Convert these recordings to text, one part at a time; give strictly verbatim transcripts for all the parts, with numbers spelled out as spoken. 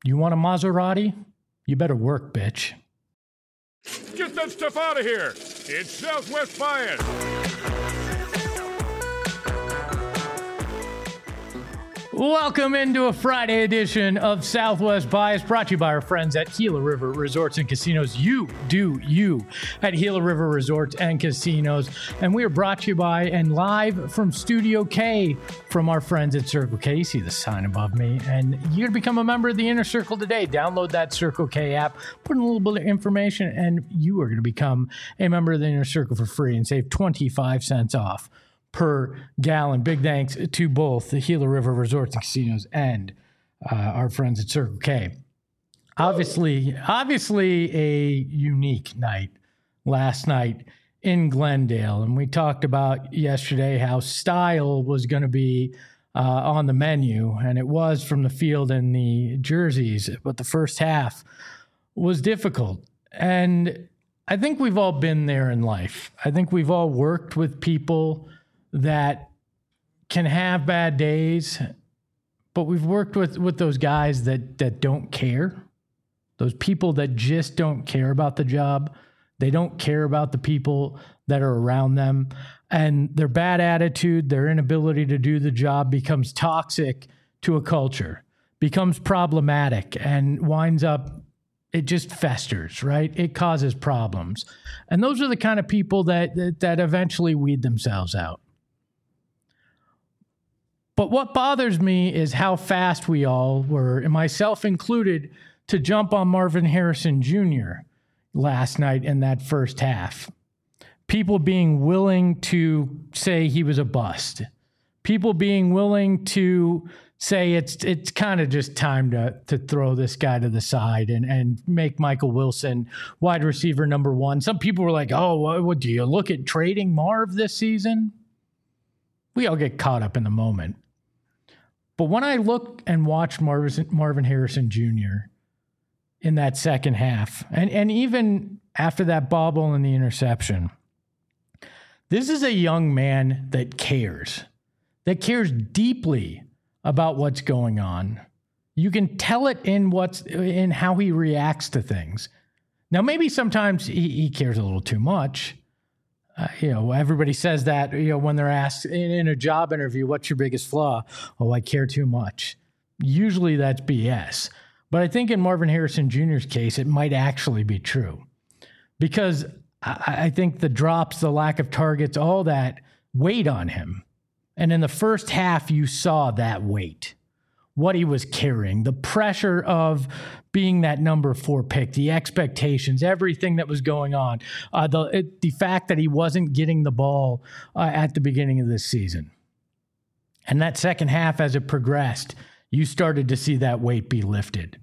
You want a Maserati? You better work, bitch. Get that stuff out of here! It's Southwest Bias! Welcome into a Friday edition of Southwest Bias, brought to you by our friends at Gila River Resorts and Casinos. You do you at Gila River Resorts and Casinos. And we are brought to you by and live from Studio K from our friends at Circle K. You see the sign above me. And you're going to become a member of the Inner Circle today. Download that Circle K app, put in a little bit of information, and you are going to become a member of the Inner Circle for free and save twenty-five cents off per gallon. Big thanks to both the Gila River Resorts and Casinos and uh, our friends at Circle K. Obviously, obviously a unique night last night in Glendale. And we talked about yesterday how style was going to be uh, on the menu, and it was from the field and the jerseys. But the first half was difficult. And I think we've all been there in life. I think we've all worked with people that can have bad days, but we've worked with, with those guys that, that don't care, those people that just don't care about the job. They don't care about the people that are around them, and their bad attitude, their inability to do the job becomes toxic to a culture, becomes problematic, and winds up, it just festers, right? It causes problems. And those are the kind of people that, that, that eventually weed themselves out. But what bothers me is how fast we all were, and myself included, to jump on Marvin Harrison Junior last night in that first half. People being willing to say he was a bust. People being willing to say it's it's kind of just time to to throw this guy to the side and, and make Michael Wilson wide receiver number one. Some people were like, oh, what, what do you look at trading Marv this season? We all get caught up in the moment. But when I look and watch Marvin, Marvin Harrison Junior in that second half, and, and even after that bobble and the interception, this is a young man that cares, that cares deeply about what's going on. You can tell it in what's in how he reacts to things. Now, maybe sometimes he, he cares a little too much. Uh, you know, everybody says that, you know, when they're asked in, in a job interview, what's your biggest flaw? Oh, I care too much. Usually that's B S. But I think in Marvin Harrison Junior's case, it might actually be true. Because I, I think the drops, the lack of targets, all that weighed on him. And in the first half, you saw that weight, what he was carrying, the pressure of being that number four pick, the expectations, everything that was going on, uh, the it, the fact that he wasn't getting the ball uh, at the beginning of this season. And that second half, as it progressed, you started to see that weight be lifted.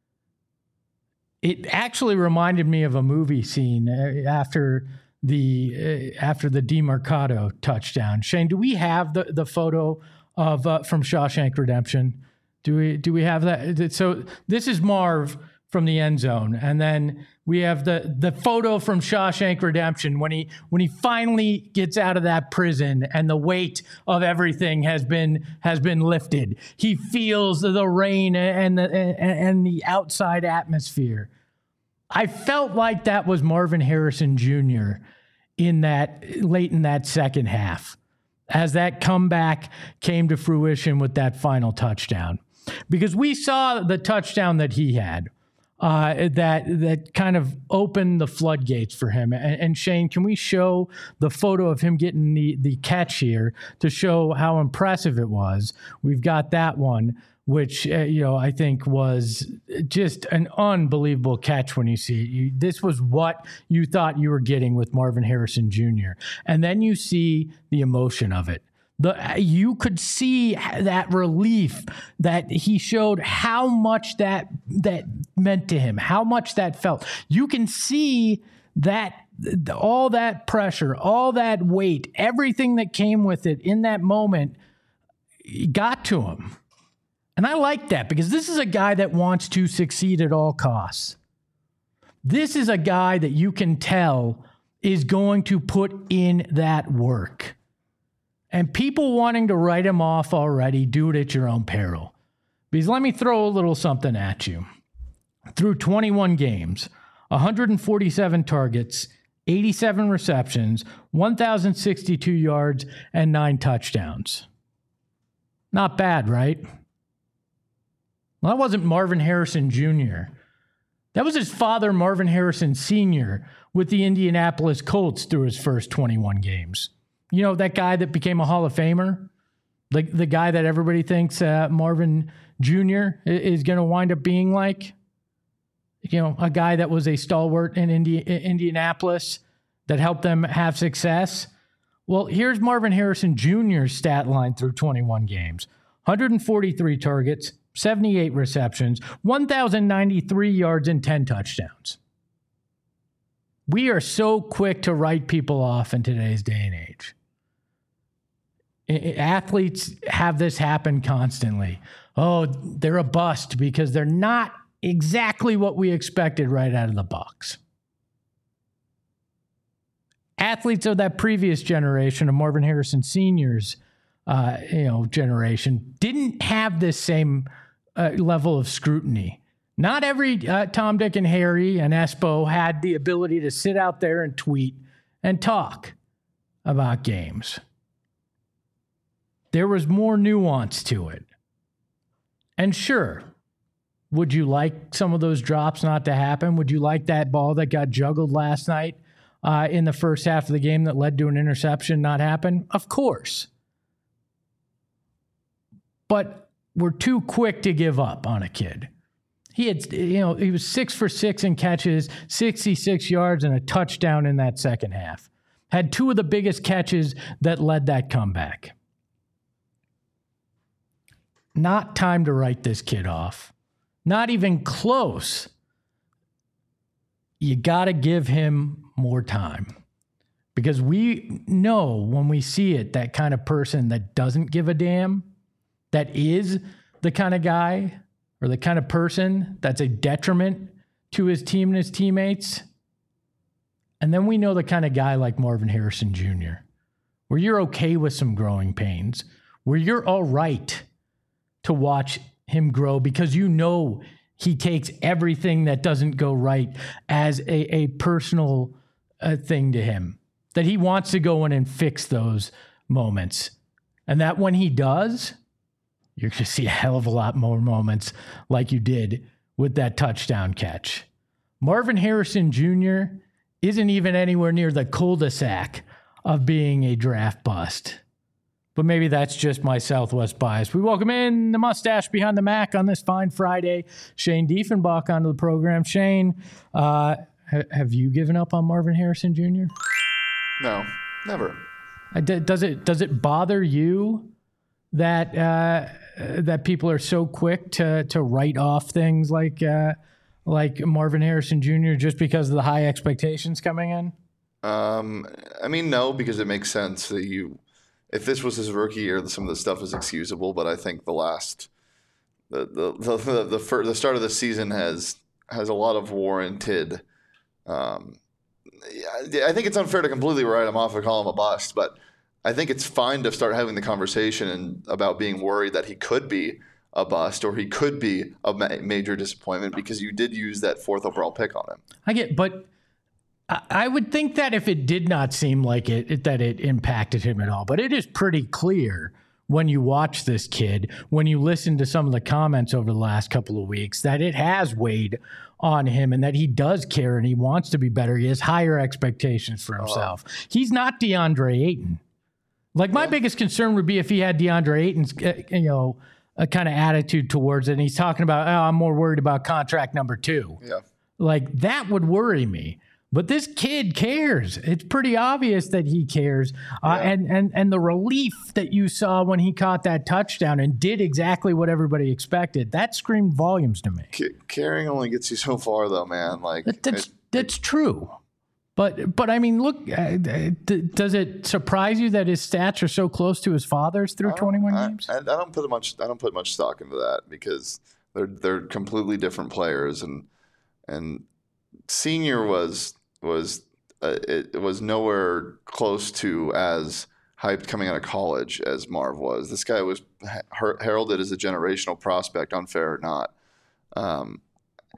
It actually reminded me of a movie scene after the uh, after the DeMarcado touchdown. Shane, do we have the, the photo of uh, from Shawshank Redemption? Do we do we have that? So this is Marv from the end zone, and then we have the the photo from Shawshank Redemption when he when he finally gets out of that prison and the weight of everything has been has been lifted. He feels the rain and the and, and the outside atmosphere. I felt like that was Marvin Harrison Junior in that late in that second half, as that comeback came to fruition with that final touchdown. Because we saw the touchdown that he had, uh, that that kind of opened the floodgates for him. And, and Shane, can we show the photo of him getting the, the catch here to show how impressive it was? We've got that one, which, uh, you know, I think was just an unbelievable catch when you see it. You, this was what you thought you were getting with Marvin Harrison Junior And then you see the emotion of it. The, you could see that relief that he showed, how much that that meant to him, how much that felt. You can see that all that pressure, all that weight, everything that came with it in that moment got to him. And I like that because this is a guy that wants to succeed at all costs. This is a guy that you can tell is going to put in that work. And people wanting to write him off already, do it at your own peril. Because let me throw a little something at you. through twenty-one games, one hundred forty-seven targets, eighty-seven receptions, one thousand sixty-two yards, and nine touchdowns. Not bad, right? Well, that wasn't Marvin Harrison Junior That was his father, Marvin Harrison Senior, with the Indianapolis Colts through his first twenty-one games. You know, that guy that became a Hall of Famer? The, the guy that everybody thinks uh, Marvin Junior is going to wind up being like? You know, a guy that was a stalwart in Indi- Indianapolis that helped them have success. Well, here's Marvin Harrison Junior's stat line through twenty-one games. one hundred forty-three targets, seventy-eight receptions, one thousand ninety-three yards, and ten touchdowns. We are so quick to write people off in today's day and age. Athletes have this happen constantly. Oh, they're a bust because they're not exactly what we expected right out of the box. Athletes of that previous generation of Marvin Harrison Senior's uh, you know, generation didn't have this same uh, level of scrutiny. Not every uh, Tom, Dick, and Harry and Espo had the ability to sit out there and tweet and talk about games. There was more nuance to it. And sure, would you like some of those drops not to happen? Would you like that ball that got juggled last night uh, in the first half of the game that led to an interception not happen? Of course. But we're too quick to give up on a kid. He had, you know, he was six for six in catches, sixty-six yards, and a touchdown in that second half. Had two of the biggest catches that led that comeback. Not time to write this kid off. Not even close. You got to give him more time. Because we know when we see it, that kind of person that doesn't give a damn, that is the kind of guy or the kind of person that's a detriment to his team and his teammates. And then we know the kind of guy like Marvin Harrison Junior, where you're okay with some growing pains, where you're all right to watch him grow because you know he takes everything that doesn't go right as a, a personal uh, thing to him, that he wants to go in and fix those moments. And that when he does, you're going to see a hell of a lot more moments like you did with that touchdown catch. Marvin Harrison Junior isn't even anywhere near the cul-de-sac of being a draft bust. But maybe that's just my Southwest bias. We welcome in the mustache behind the Mac on this fine Friday, Shane Diefenbach, onto the program. Shane, uh, ha- have you given up on Marvin Harrison Junior? No, never. Uh, d- does it does it bother you that uh, that people are so quick to to write off things like uh, like Marvin Harrison Junior just because of the high expectations coming in? Um, I mean, no, because it makes sense that you. If this was his rookie year, some of the stuff is excusable, but I think the last, the the the the, the, first, the start of the season has has a lot of warranted. Um, I think it's unfair to completely write him off and call him a bust, but I think it's fine to start having the conversation and, about being worried that he could be a bust or he could be a ma- major disappointment because you did use that fourth overall pick on him. I get, but. I would think that if it did not seem like it, it, that it impacted him at all, but it is pretty clear when you watch this kid, when you listen to some of the comments over the last couple of weeks, that it has weighed on him and that he does care and he wants to be better. He has higher expectations for himself. Uh, He's not DeAndre Ayton. Like my yeah. biggest concern would be if he had DeAndre Ayton's, uh, you know, a kind of attitude towards it. And he's talking about, oh, I'm more worried about contract number two. Yeah. Like that would worry me. But this kid cares. It's pretty obvious that he cares. Uh, yeah. and, and, and the relief that you saw when he caught that touchdown and did exactly what everybody expected, that screamed volumes to me. C- caring only gets you so far, though, man. Like that, That's, it, that's true. But, but I mean, look, uh, d- does it surprise you that his stats are so close to his father's through twenty-one I, games? I, I don't put much. I don't put much stock into that because they're they're completely different players, and and Senior was was uh, it, it was nowhere close to as hyped coming out of college as Marv was. This guy was her- heralded as a generational prospect, unfair or not. Um,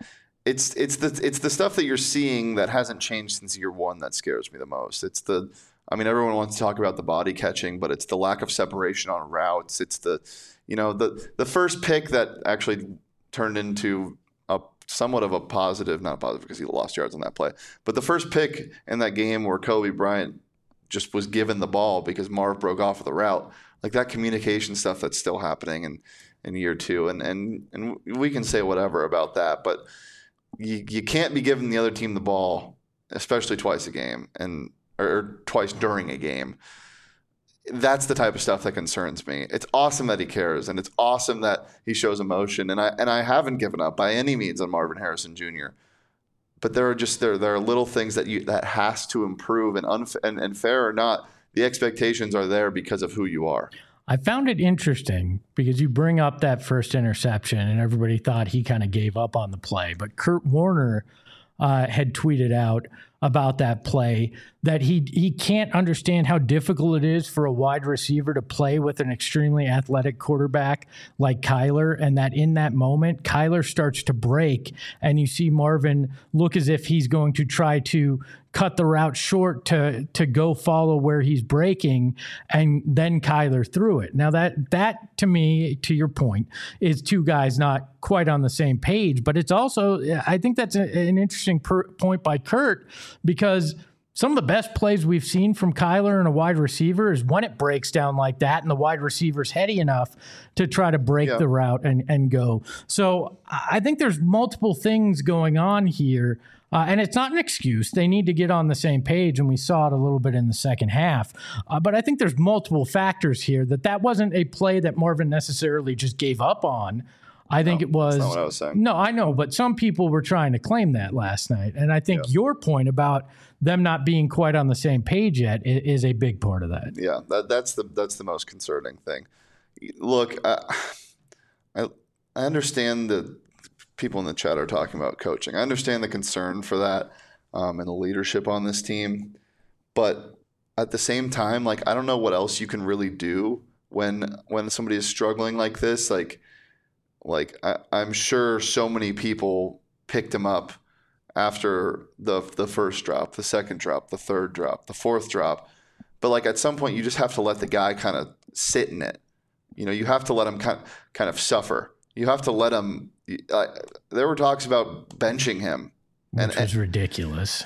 it's it's the it's the stuff that you're seeing that hasn't changed since year one that scares me the most. It's the I mean, everyone wants to talk about the body catching, but it's the lack of separation on routes. It's the, you know, the the first pick that actually turned into a somewhat of a positive, not a positive because he lost yards on that play, but the first pick in that game where Kobe Bryant just was given the ball because Marv broke off of the route, like that communication stuff that's still happening in, in year two. And, and, and we can say whatever about that, but you, you can't be giving the other team the ball, especially twice a game and, or twice during a game. That's the type of stuff that concerns me. It's awesome that he cares, and it's awesome that he shows emotion. And I and I haven't given up by any means on Marvin Harrison Junior But there are just there there are little things that you that has to improve, and unf- and, and fair or not, the expectations are there because of who you are. I found it interesting because you bring up that first interception, and everybody thought he kind of gave up on the play, but Kurt Warner uh, had tweeted out about that play that he he can't understand how difficult it is for a wide receiver to play with an extremely athletic quarterback like Kyler, and that in that moment, Kyler starts to break, and you see Marvin look as if he's going to try to cut the route short to to go follow where he's breaking, and then Kyler threw it. Now that that to me, to your point, is two guys not quite on the same page, but it's also, I think that's a, an interesting per, point by Kurt, because some of the best plays we've seen from Kyler and a wide receiver is when it breaks down like that and the wide receiver's heady enough to try to break yeah. the route and, and go. So I think there's multiple things going on here. Uh, and it's not an excuse. They need to get on the same page, and we saw it a little bit in the second half. Uh, but I think there's multiple factors here that that wasn't a play that Marvin necessarily just gave up on. I think no, it was. That's not what I was saying. No, I know, but some people were trying to claim that last night. And I think yeah. your point about them not being quite on the same page yet is, is a big part of that. Yeah, that, that's the that's the most concerning thing. Look, I, I, I understand that people in the chat are talking about coaching. I understand the concern for that um, and the leadership on this team. But at the same time, like, I don't know what else you can really do when when somebody is struggling like this. Like, like I, I'm sure so many people picked him up after the the first drop, the second drop, the third drop, the fourth drop. But like at some point, you just have to let the guy kind of sit in it. You know, you have to let him kind kind of suffer. You have to let him. Uh, there were talks about benching him, which and, was and, ridiculous.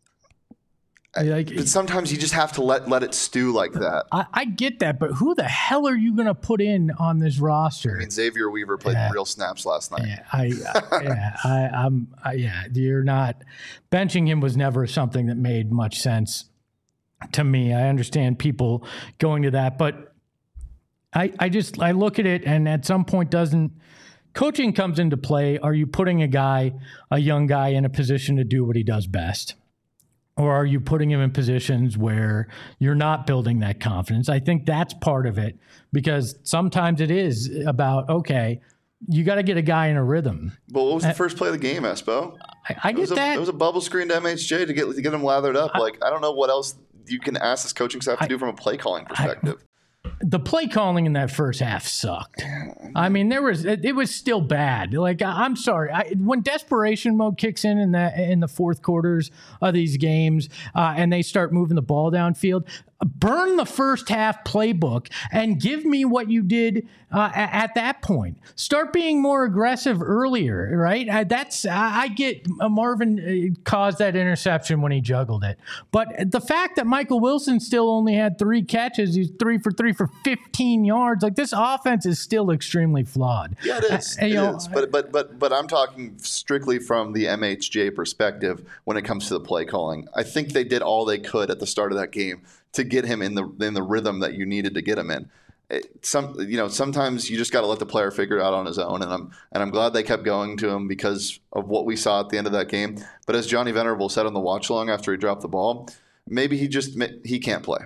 Like, but sometimes you just have to let let it stew like that. I, I get that, but who the hell are you going to put in on this roster? I mean, Xavier Weaver played yeah. real snaps last night. Yeah, I, I yeah, I, I'm, I, yeah. You're not benching him was never something that made much sense to me. I understand people going to that, but I, I just I look at it, and at some point, doesn't coaching comes into play? Are you putting a guy, a young guy, in a position to do what he does best? Or are you putting him in positions where you're not building that confidence? I think that's part of it, because sometimes it is about, okay, you got to get a guy in a rhythm. But what was the uh, first play of the game, Espo? I, I get it was that. A, it was a bubble screen to M H J to get to get him lathered up. I, like, I don't know what else you can ask this coaching staff to I, do from a play calling perspective. I, The play calling in that first half sucked. I mean, there was it, it was still bad. Like, I'm sorry, I, when desperation mode kicks in in the in the fourth quarters of these games, uh, and they start moving the ball downfield, burn the first half playbook and give me what you did uh, at, at that point. Start being more aggressive earlier, right? Uh, that's I, I get uh, Marvin uh, caused that interception when he juggled it, but the fact that Michael Wilson still only had three catches, he's three for three for fifteen yards. Like, this offense is still extremely flawed. Yeah, it is. Uh, it know, is. But but but but I'm talking strictly from the M H J perspective when it comes to the play calling. I think they did all they could at the start of that game to get him in the in the rhythm that you needed to get him in. It, some you know sometimes you just got to let the player figure it out on his own, and I'm and I'm glad they kept going to him because of what we saw at the end of that game. But as Johnny Venerable said on the watch along after he dropped the ball, maybe he just he can't play.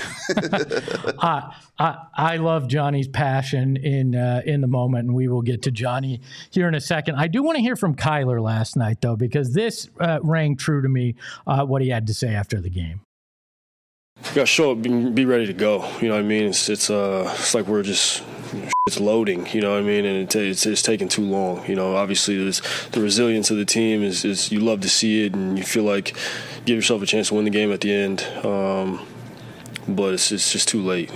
I, I I love Johnny's passion in uh, in the moment, and we will get to Johnny here in a second. I do want to hear from Kyler last night, though, because this uh, rang true to me, uh, what he had to say after the game. got to show up, be, be ready to go. You know what I mean? It's it's uh it's like we're just it's loading. You know what I mean? And it, it's it's taking too long. You know, obviously there's the resilience of the team is is you love to see it, and you feel like give yourself a chance to win the game at the end. Um, but it's it's just too late.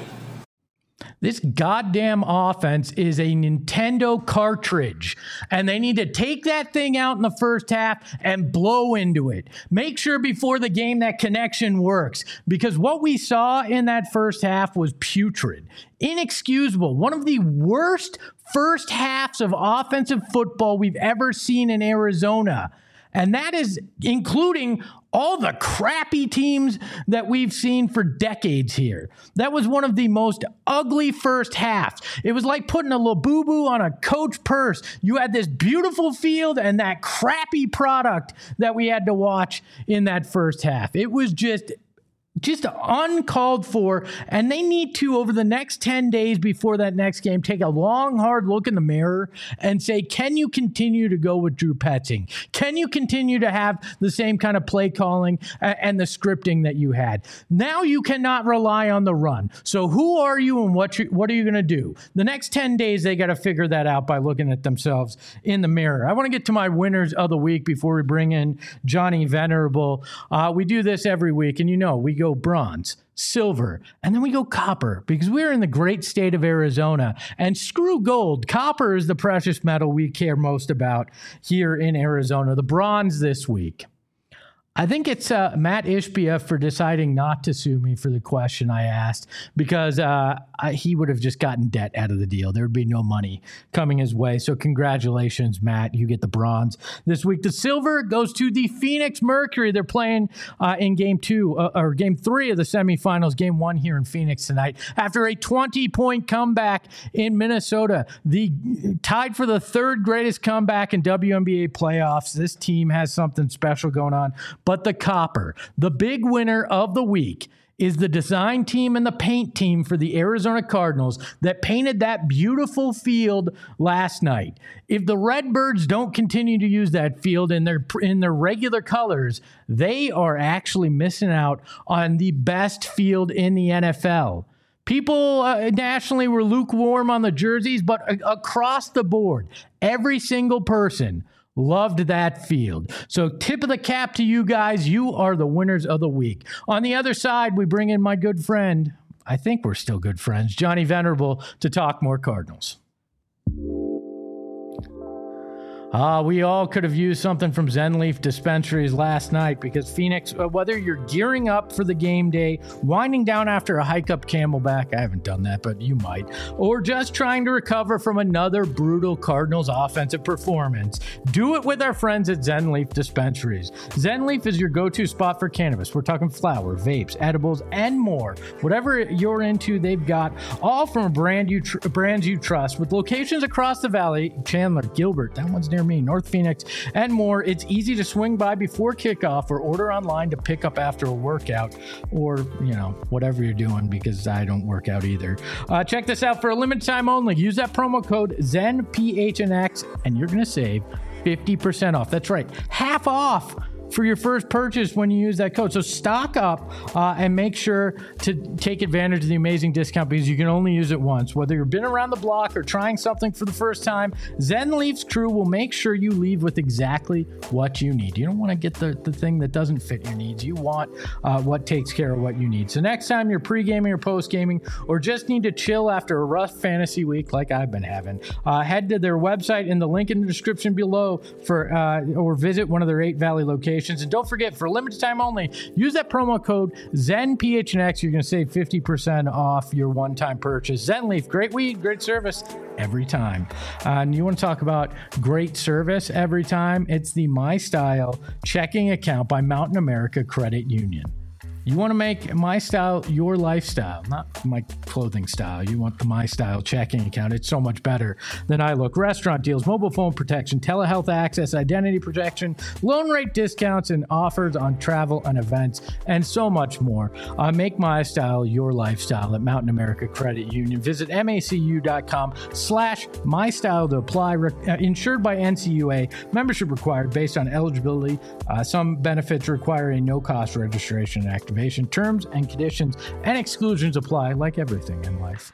This goddamn offense is a Nintendo cartridge, and they need to take that thing out in the first half and blow into it. Make sure before the game that connection works, because what we saw in that first half was putrid, inexcusable, one of the worst first halves of offensive football we've ever seen in Arizona. And that is including all the crappy teams that we've seen for decades here. That was one of the most ugly first halves. It was like putting a Labubu on a Coach purse. You had this beautiful field and that crappy product that we had to watch in that first half. It was just... Just uncalled for, and they need to, over the next ten days before that next game, take a long, hard look in the mirror and say, can you continue to go with Drew Petzing? Can you continue to have the same kind of play calling and the scripting that you had? Now you cannot rely on the run. So who are you and what, you, what are you going to do? The next ten days, they got to figure that out by looking at themselves in the mirror. I want to get to my winners of the week before we bring in Johnny Venerable. Uh, we do this every week, and you know, we go bronze, silver, and then we go copper, because we're in the great state of Arizona, and screw gold. Copper is the precious metal we care most about here in Arizona. The bronze this week, I think it's uh, Matt Ishbia for deciding not to sue me for the question I asked, because uh, I, he would have just gotten debt out of the deal. There would be no money coming his way. So congratulations, Matt. You get the bronze this week. The silver goes to the Phoenix Mercury. They're playing uh, in game two uh, or game three of the semifinals, game one here in Phoenix tonight. After a twenty-point comeback in Minnesota, the tied for the third greatest comeback in W N B A playoffs. This team has something special going on. But the copper, the big winner of the week, is the design team and the paint team for the Arizona Cardinals that painted that beautiful field last night. If the Redbirds don't continue to use that field in their in their regular colors, they are actually missing out on the best field in the N F L. People uh, nationally were lukewarm on the jerseys, but uh, across the board, every single person loved that field. So tip of the cap to you guys. You are the winners of the week. On the other side, we bring in my good friend, I think we're still good friends, Johnny Venerable, to talk more Cardinals. Uh, we all could have used something from Zen Leaf Dispensaries last night, because Phoenix, uh, whether you're gearing up for the game day, winding down after a hike up Camelback, I haven't done that, but you might, or just trying to recover from another brutal Cardinals offensive performance, do it with our friends at Zen Leaf Dispensaries. Zen Leaf is your go-to spot for cannabis. We're talking flower, vapes, edibles, and more. Whatever you're into, they've got, all from a brand you tr- brands you trust, with locations across the valley. Chandler, Gilbert, that one's near me, North Phoenix, and more. It's easy to swing by before kickoff or order online to pick up after a workout, or, you know, whatever you're doing, because I don't work out either. Uh, check this out for a limited time only. Use that promo code Zen P H N X and you're going to save fifty percent off. That's right, half off for your first purchase when you use that code. So stock up uh, and make sure to take advantage of the amazing discount, because you can only use it once. Whether you've been around the block or trying something for the first time, Zen Leaf's crew will make sure you leave with exactly what you need. You don't want to get the, the thing that doesn't fit your needs. You want uh, what takes care of what you need. So next time you're pre-gaming or post-gaming, or just need to chill after a rough fantasy week like I've been having, uh, head to their website in the link in the description below for uh, or visit one of their eight Valley locations. And don't forget, for a limited time only, use that promo code Zen P H N X. You're going to save fifty percent off your one-time purchase. Zen Leaf, great weed, great service every time. Uh, and you want to talk about great service every time? It's the My Style checking account by Mountain America Credit Union. You want to make My Style your lifestyle, not my clothing style. You want the My Style checking account. It's so much better than I look. Restaurant deals, mobile phone protection, telehealth access, identity protection, loan rate discounts, and offers on travel and events, and so much more. Uh, make My Style your lifestyle at Mountain America Credit Union. Visit macu.com slash My Style to apply. Re- uh, insured by N C U A. Membership required based on eligibility. Uh, some benefits require a no-cost registration and activation. activation. Terms and conditions and exclusions apply, like everything in life.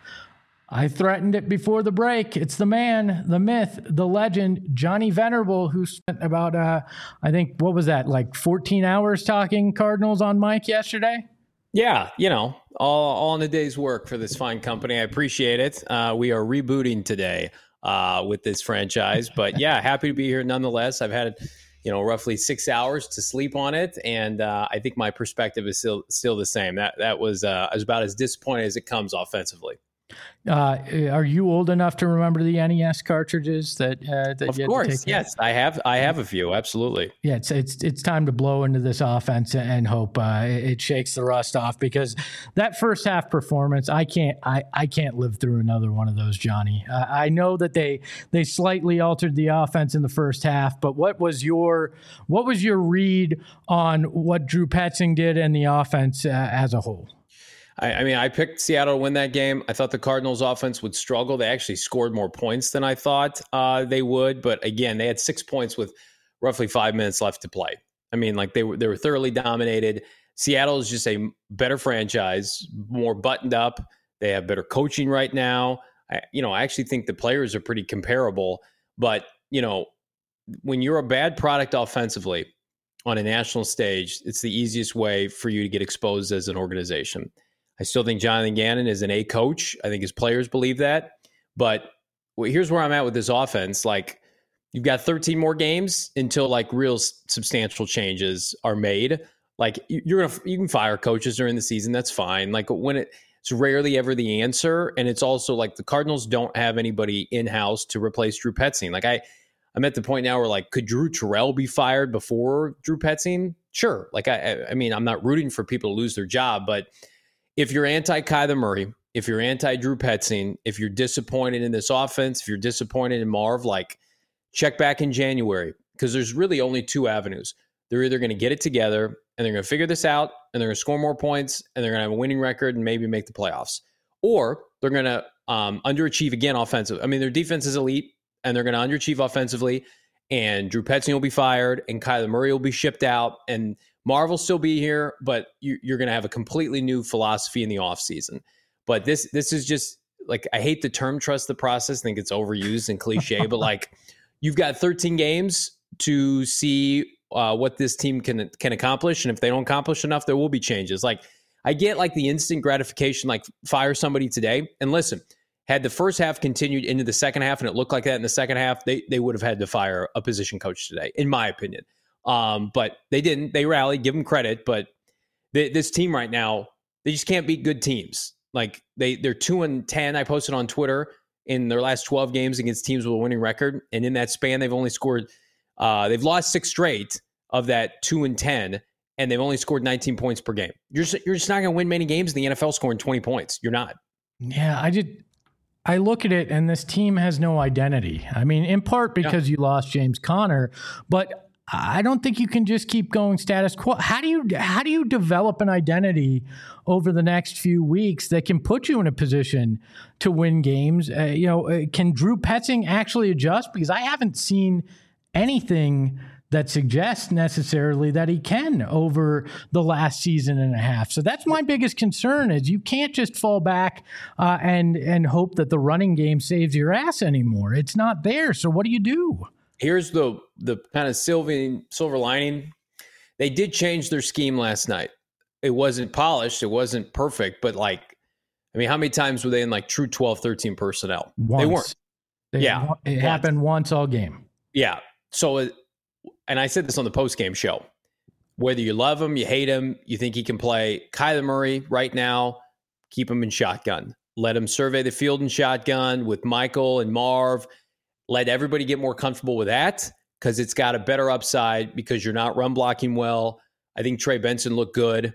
I threatened it before the break. It's the man, the myth, the legend, Johnny Venerable, who spent about, uh, I think, what was that, like fourteen hours talking Cardinals on mic yesterday? Yeah, you know, all, all in a day's work for this fine company. I appreciate it. Uh, we are rebooting today uh, with this franchise. But yeah, happy to be here nonetheless. I've had, you know, roughly six hours to sleep on it. And uh, I think my perspective is still still the same. That, that was, uh, I was about as disappointed as it comes offensively. Uh, are you old enough to remember the N E S cartridges that? Uh, that of you had course, to take yes, I have. I have a few. Absolutely. Yeah, it's it's it's time to blow into this offense and hope uh, it shakes the rust off, because that first half performance, I can't I, I can't live through another one of those, Johnny. Uh, I know that they they slightly altered the offense in the first half, but what was your what was your read on what Drew Petzing did and the offense uh, as a whole? I, I mean, I picked Seattle to win that game. I thought the Cardinals offense would struggle. They actually scored more points than I thought uh, they would. But again, they had six points with roughly five minutes left to play. I mean, like they were they were thoroughly dominated. Seattle is just a better franchise, more buttoned up. They have better coaching right now. I, you know, I actually think the players are pretty comparable. But, you know, when you're a bad product offensively on a national stage, it's the easiest way for you to get exposed as an organization. I still think Jonathan Gannon is an A coach. I think his players believe that. But here's where I'm at with this offense. Like, you've got thirteen more games until like real substantial changes are made. Like, you're gonna you can fire coaches during the season. That's fine. Like, when it, it's rarely ever the answer. And it's also like the Cardinals don't have anybody in house to replace Drew Petzing. Like I, I'm at the point now where like, could Drew Terrell be fired before Drew Petzing? Sure. Like I, I mean, I'm not rooting for people to lose their job, but if you're anti-Kyler Murray, if you're anti-Drew Petzing, if you're disappointed in this offense, if you're disappointed in Marv, like check back in January, because there's really only two avenues. They're either going to get it together and they're going to figure this out and they're going to score more points and they're going to have a winning record and maybe make the playoffs, or they're going to um, underachieve again offensively. I mean, their defense is elite and they're going to underachieve offensively, and Drew Petzing will be fired and Kyler Murray will be shipped out and Marv will still be here, but you, you're going to have a completely new philosophy in the offseason. But this this is just like, I hate the term trust the process. I think it's overused and cliche, but like you've got thirteen games to see uh, what this team can can accomplish. And if they don't accomplish enough, there will be changes. Like I get like the instant gratification, like fire somebody today. And listen, had the first half continued into the second half and it looked like that in the second half, they they would have had to fire a position coach today, in my opinion. Um, but they didn't. They rallied, give them credit. But they, this team right now, they just can't beat good teams. Like they, they're two and ten. I posted on Twitter in their last twelve games against teams with a winning record, and in that span, they've only scored. Uh, they've lost six straight of that two and ten, and they've only scored nineteen points per game. You're just, you're just not going to win many games in the N F L scoring twenty points. You're not. Yeah, I did. I look at it, and this team has no identity. I mean, in part because yeah. you lost James Conner, but I don't think you can just keep going status quo. How do you how do you develop an identity over the next few weeks that can put you in a position to win games? Uh, you know, uh, can Drew Petzing actually adjust? Because I haven't seen anything that suggests necessarily that he can over the last season and a half. So that's my biggest concern: is you can't just fall back uh, and and hope that the running game saves your ass anymore. It's not there. So what do you do? Here's the the kind of silver, silver lining. They did change their scheme last night. It wasn't polished. It wasn't perfect. But, like, I mean, how many times were they in, like, true twelve, thirteen personnel? Once. They weren't. They, yeah. It once. happened once all game. Yeah. So, and I said this on the postgame show. Whether you love him, you hate him, you think he can play, Kyler Murray right now, keep him in shotgun. Let him survey the field in shotgun with Michael and Marv. Let everybody get more comfortable with that because it's got a better upside because you're not run blocking well. I think Trey Benson looked good.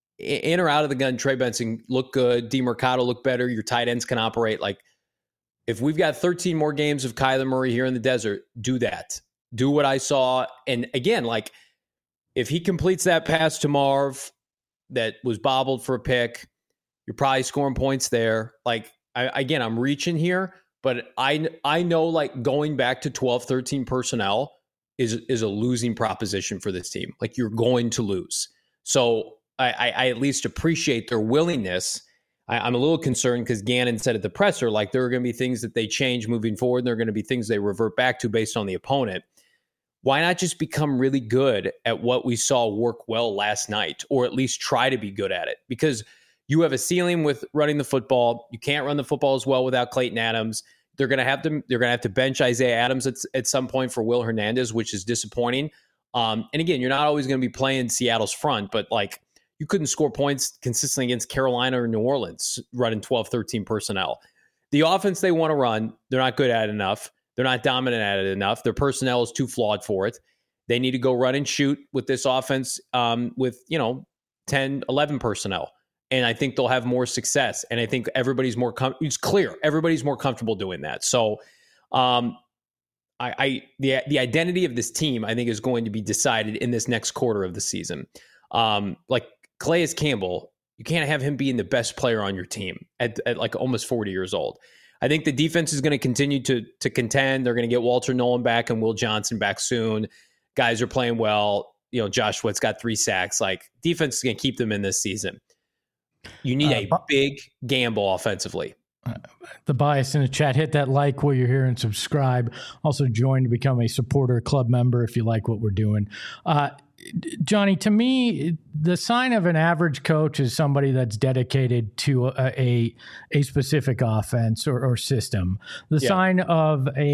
In or out of the gun, Trey Benson looked good. DeMercado looked better. Your tight ends can operate. Like, if we've got thirteen more games of Kyler Murray here in the desert, do that. Do what I saw. And again, like, if he completes that pass to Marv that was bobbled for a pick, you're probably scoring points there. Like, I, again, I'm reaching here. But I I know, like, going back to twelve, thirteen personnel is is a losing proposition for this team. Like, you're going to lose. So I, I, I at least appreciate their willingness. I, I'm a little concerned because Gannon said at the presser, like there are going to be things that they change moving forward. And there are going to be things they revert back to based on the opponent. Why not just become really good at what we saw work well last night, or at least try to be good at it? Because you have a ceiling with running the football. You can't run the football as well without Clayton Adams. They're going to have to they're going to have to bench Isaiah Adams at, at some point for Will Hernandez, which is disappointing. Um, and again, you're not always going to be playing Seattle's front, but like you couldn't score points consistently against Carolina or New Orleans running twelve, thirteen personnel. The offense they want to run, they're not good at it enough. They're not dominant at it enough. Their personnel is too flawed for it. They need to go run and shoot with this offense um, with, you know, ten, eleven personnel. And I think they'll have more success. And I think everybody's more, com- it's clear, everybody's more comfortable doing that. So um, I, I the the identity of this team, I think, is going to be decided in this next quarter of the season. Um, like Calais Campbell, you can't have him being the best player on your team at, at like almost forty years old. I think the defense is going to continue to to contend. They're going to get Walter Nolan back and Will Johnson back soon. Guys are playing well. You know, Josh Sweat's got three sacks. Like, defense is going to keep them in this season. You need uh, a big gamble offensively. Uh, the bias in the chat, hit that like while you're here and subscribe. Also join to become a supporter club member if you like what we're doing. Uh, Johnny, to me, the sign of an average coach is somebody that's dedicated to a a, a specific offense or, or system. The yeah. sign of a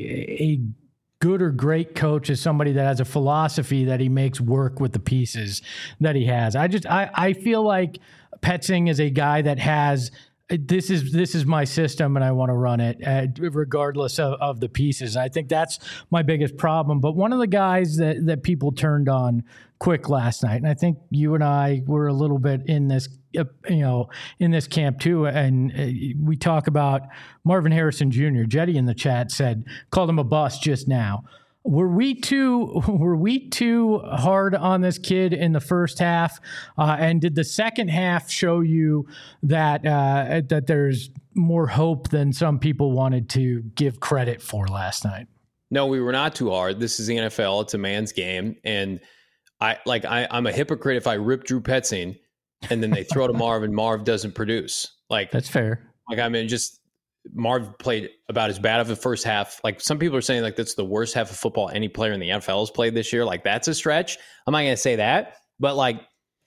a good or great coach is somebody that has a philosophy that he makes work with the pieces that he has. I just I, I feel like Petzing is a guy that has this is this is my system and I want to run it uh, regardless of, of the pieces. And I think that's my biggest problem. But one of the guys that, that people turned on quick last night, and I think you and I were a little bit in this, uh, you know, in this camp too. And uh, we talk about Marvin Harrison Junior Jetty in the chat said, called him a bust just now. Were we too were we too hard on this kid in the first half? Uh, and did the second half show you that uh, that there's more hope than some people wanted to give credit for last night? No, we were not too hard. This is the N F L. It's a man's game, and I like I, I'm a hypocrite if I rip Drew Petzing and then they throw to Marv and Marv doesn't produce. Like that's fair. Like I mean, just. Marv played about as bad of a first half. Like some people are saying, like that's the worst half of football any player in the N F L has played this year. Like that's a stretch. I'm not going to say that, but like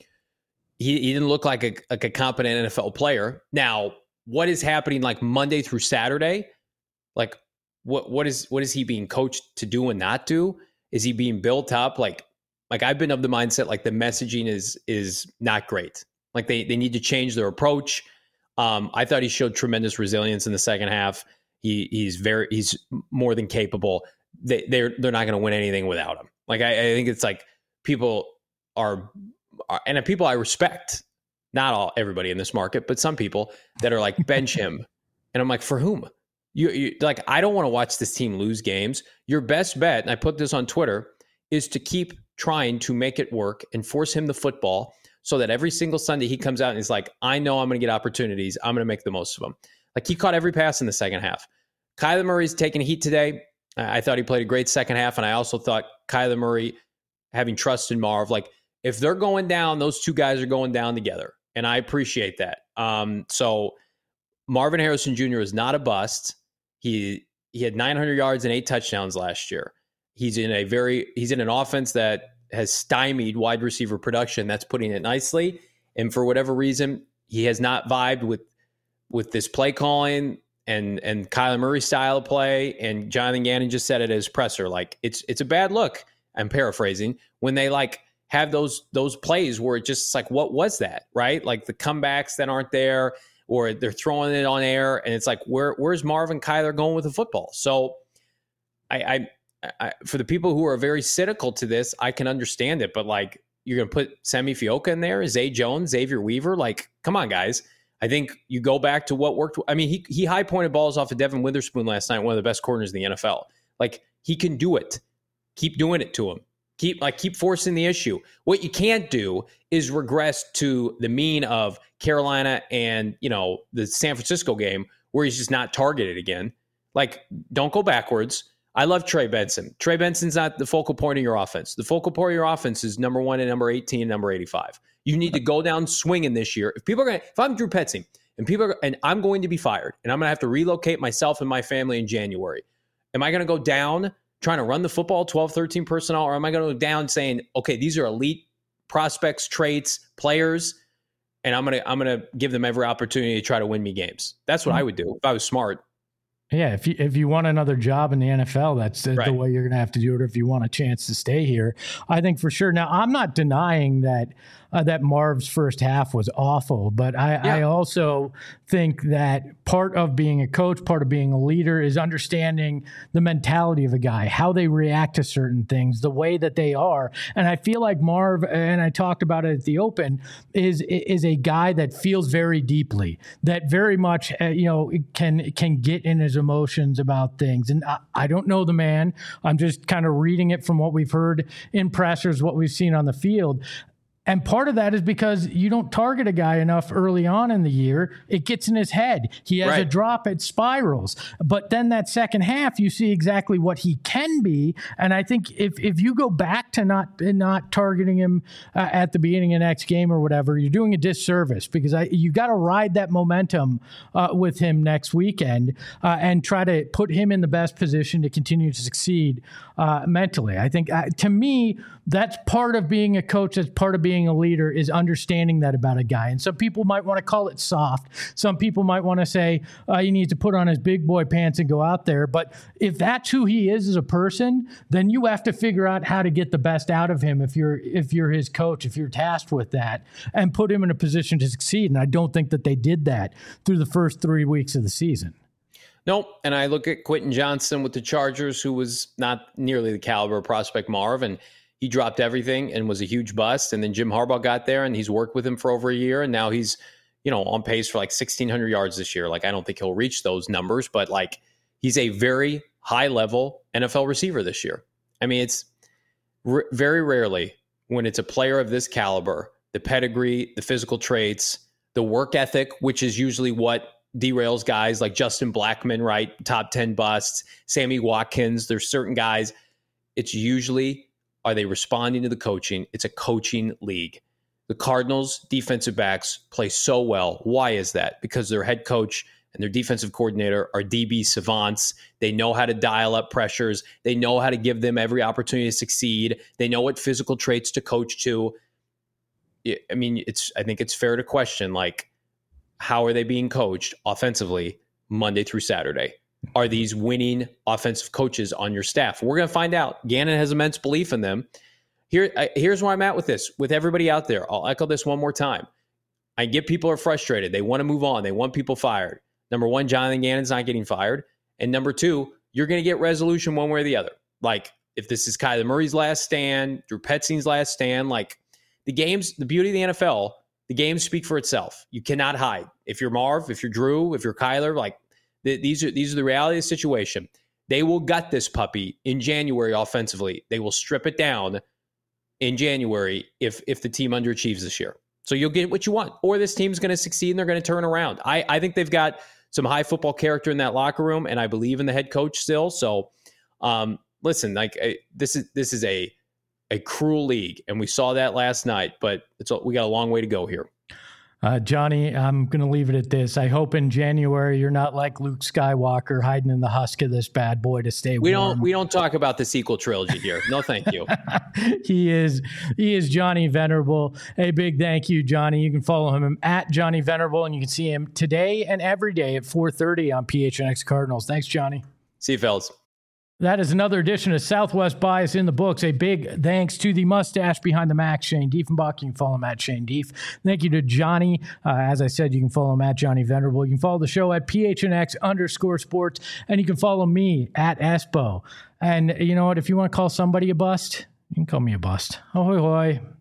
he, he didn't look like a like a competent N F L player. Now, what is happening like Monday through Saturday? Like what what is what is he being coached to do and not do? Is he being built up? Like like I've been of the mindset like the messaging is is not great. Like they they need to change their approach. Um, I thought he showed tremendous resilience in the second half. He he's very he's more than capable. They they're they're not going to win anything without him. Like I, I think it's like people are, are and people I respect. Not all everybody in this market, but some people that are like bench him, and I'm like, for whom? You, you like I don't want to watch this team lose games. Your best bet, and I put this on Twitter, is to keep trying to make it work and force him the football. So that every single Sunday he comes out and he's like, I know I'm going to get opportunities. I'm going to make the most of them. Like he caught every pass in the second half. Kyler Murray's taking heat today. I thought he played a great second half. And I also thought Kyler Murray having trust in Marv, like if they're going down, those two guys are going down together. And I appreciate that. Um, so Marvin Harrison Junior is not a bust. He, he had nine hundred yards and eight touchdowns last year. He's in a very, he's in an offense that has stymied wide receiver production. That's putting it nicely. And for whatever reason, he has not vibed with with this play calling and and Kyler Murray style of play. And Jonathan Gannon just said it as presser. Like it's it's a bad look. I'm paraphrasing when they like have those those plays where it just like, what was that? Right? Like the comebacks that aren't there, or they're throwing it on air, and it's like, where where's Marvin Kyler going with the football? So I. I I, for the people who are very cynical to this, I can understand it, but like you're going to put Semi Fioka in there, Zay Jones, Xavier Weaver, like come on, guys. I think you go back to what worked. I mean, he he high pointed balls off of Devin Witherspoon last night, one of the best corners in the N F L. Like he can do it. Keep doing it to him. Keep like keep forcing the issue. What you can't do is regress to the mean of Carolina and you know the San Francisco game where he's just not targeted again. Like don't go backwards. I love Trey Benson. Trey Benson's not the focal point of your offense. The focal point of your offense is number one and number eighteen and number eighty-five. You need to go down swinging this year. If people are going to, if I'm Drew Petzing and people are, and I'm going to be fired and I'm going to have to relocate myself and my family in January, am I going to go down trying to run the football twelve, thirteen personnel, or am I going to go down saying, okay, these are elite prospects, traits, players, and I'm going to, I'm going to give them every opportunity to try to win me games. That's what I would do if I was smart. Yeah, if you if you want another job in the N F L, that's the, Right. the way you're going to have to do it. If you want a chance to stay here, I think for sure. Now, I'm not denying that uh, that Marv's first half was awful, but I, Yeah. I also think that part of being a coach, part of being a leader, is understanding the mentality of a guy, how they react to certain things, the way that they are. And I feel like Marv, and I talked about it at the Open, is is a guy that feels very deeply, that very much uh, you know can can get in his emotions about things. And I, I don't know the man. I'm just kind of reading it from what we've heard in pressers, what we've seen on the field. And part of that is because you don't target a guy enough early on in the year. It gets in his head. He has Right. a drop, it spirals. But then that second half, you see exactly what he can be. And I think if if you go back to not not targeting him uh, at the beginning of next game or whatever, you're doing a disservice, because I you got to ride that momentum uh, with him next weekend uh, and try to put him in the best position to continue to succeed uh, mentally. I think uh, to me, that's part of being a coach. That's part of being a leader, is understanding that about a guy. And some people might want to call it soft. Some people might want to say uh, he needs to put on his big boy pants and go out there. But if that's who he is as a person, then you have to figure out how to get the best out of him if you're if you're his coach, if you're tasked with that, and put him in a position to succeed. And I don't think that they did that through the first three weeks of the season. Nope. And I look at Quentin Johnson with the Chargers, who was not nearly the caliber of prospect Marv, and he dropped everything and was a huge bust. And then Jim Harbaugh got there and he's worked with him for over a year. And now he's, you know, on pace for like sixteen hundred yards this year. Like, I don't think he'll reach those numbers, but like, he's a very high level N F L receiver this year. I mean, it's r- very rarely when it's a player of this caliber, the pedigree, the physical traits, the work ethic, which is usually what derails guys like Justin Blackmon, right? Top ten busts, Sammy Watkins. There's certain guys. It's usually, are they responding to the coaching? It's a coaching league. The Cardinals defensive backs play so well. Why is that? Because their head coach and their defensive coordinator are D B savants. They know how to dial up pressures. They know how to give them every opportunity to succeed. They know what physical traits to coach to. I mean, it's. I think it's fair to question, like, how are they being coached offensively Monday through Saturday? Are these winning offensive coaches on your staff? We're going to find out. Gannon has immense belief in them. Here, here's where I'm at with this, with everybody out there. I'll echo this one more time. I get people are frustrated. They want to move on. They want people fired. Number one, Jonathan Gannon's not getting fired. And number two, you're going to get resolution one way or the other. Like, if this is Kyler Murray's last stand, Drew Petzing's last stand, like, the games, the beauty of the N F L, the games speak for itself. You cannot hide. If you're Marv, if you're Drew, if you're Kyler, like, These are these are the reality of the situation. They will gut this puppy in January offensively. They will strip it down in January if if the team underachieves this year. So you'll get what you want. Or this team's going to succeed and they're going to turn around. I, I think they've got some high football character in that locker room, and I believe in the head coach still. So um, listen, like I, this is this is a a cruel league, and we saw that last night. But it's we got a long way to go here. Uh, Johnny, I'm going to leave it at this. I hope in January you're not like Luke Skywalker hiding in the husk of this bad boy to stay We warm. don't we don't talk about the sequel trilogy here. No, thank you. he is he is Johnny Venerable. A big thank you, Johnny. You can follow him at Johnny Venerable, and you can see him today and every day at four thirty on P H N X Cardinals. Thanks, Johnny. See you, fellas. That is another edition of Southwest Bias in the books. A big thanks to the mustache behind the Mac, Shane Diefenbach. You can follow him at Shane Dief. Thank you to Johnny. Uh, as I said, you can follow him at Johnny Venerable. You can follow the show at P H N X underscore sports. And you can follow me at Espo. And you know what? If you want to call somebody a bust, you can call me a bust. Ahoy, hoy.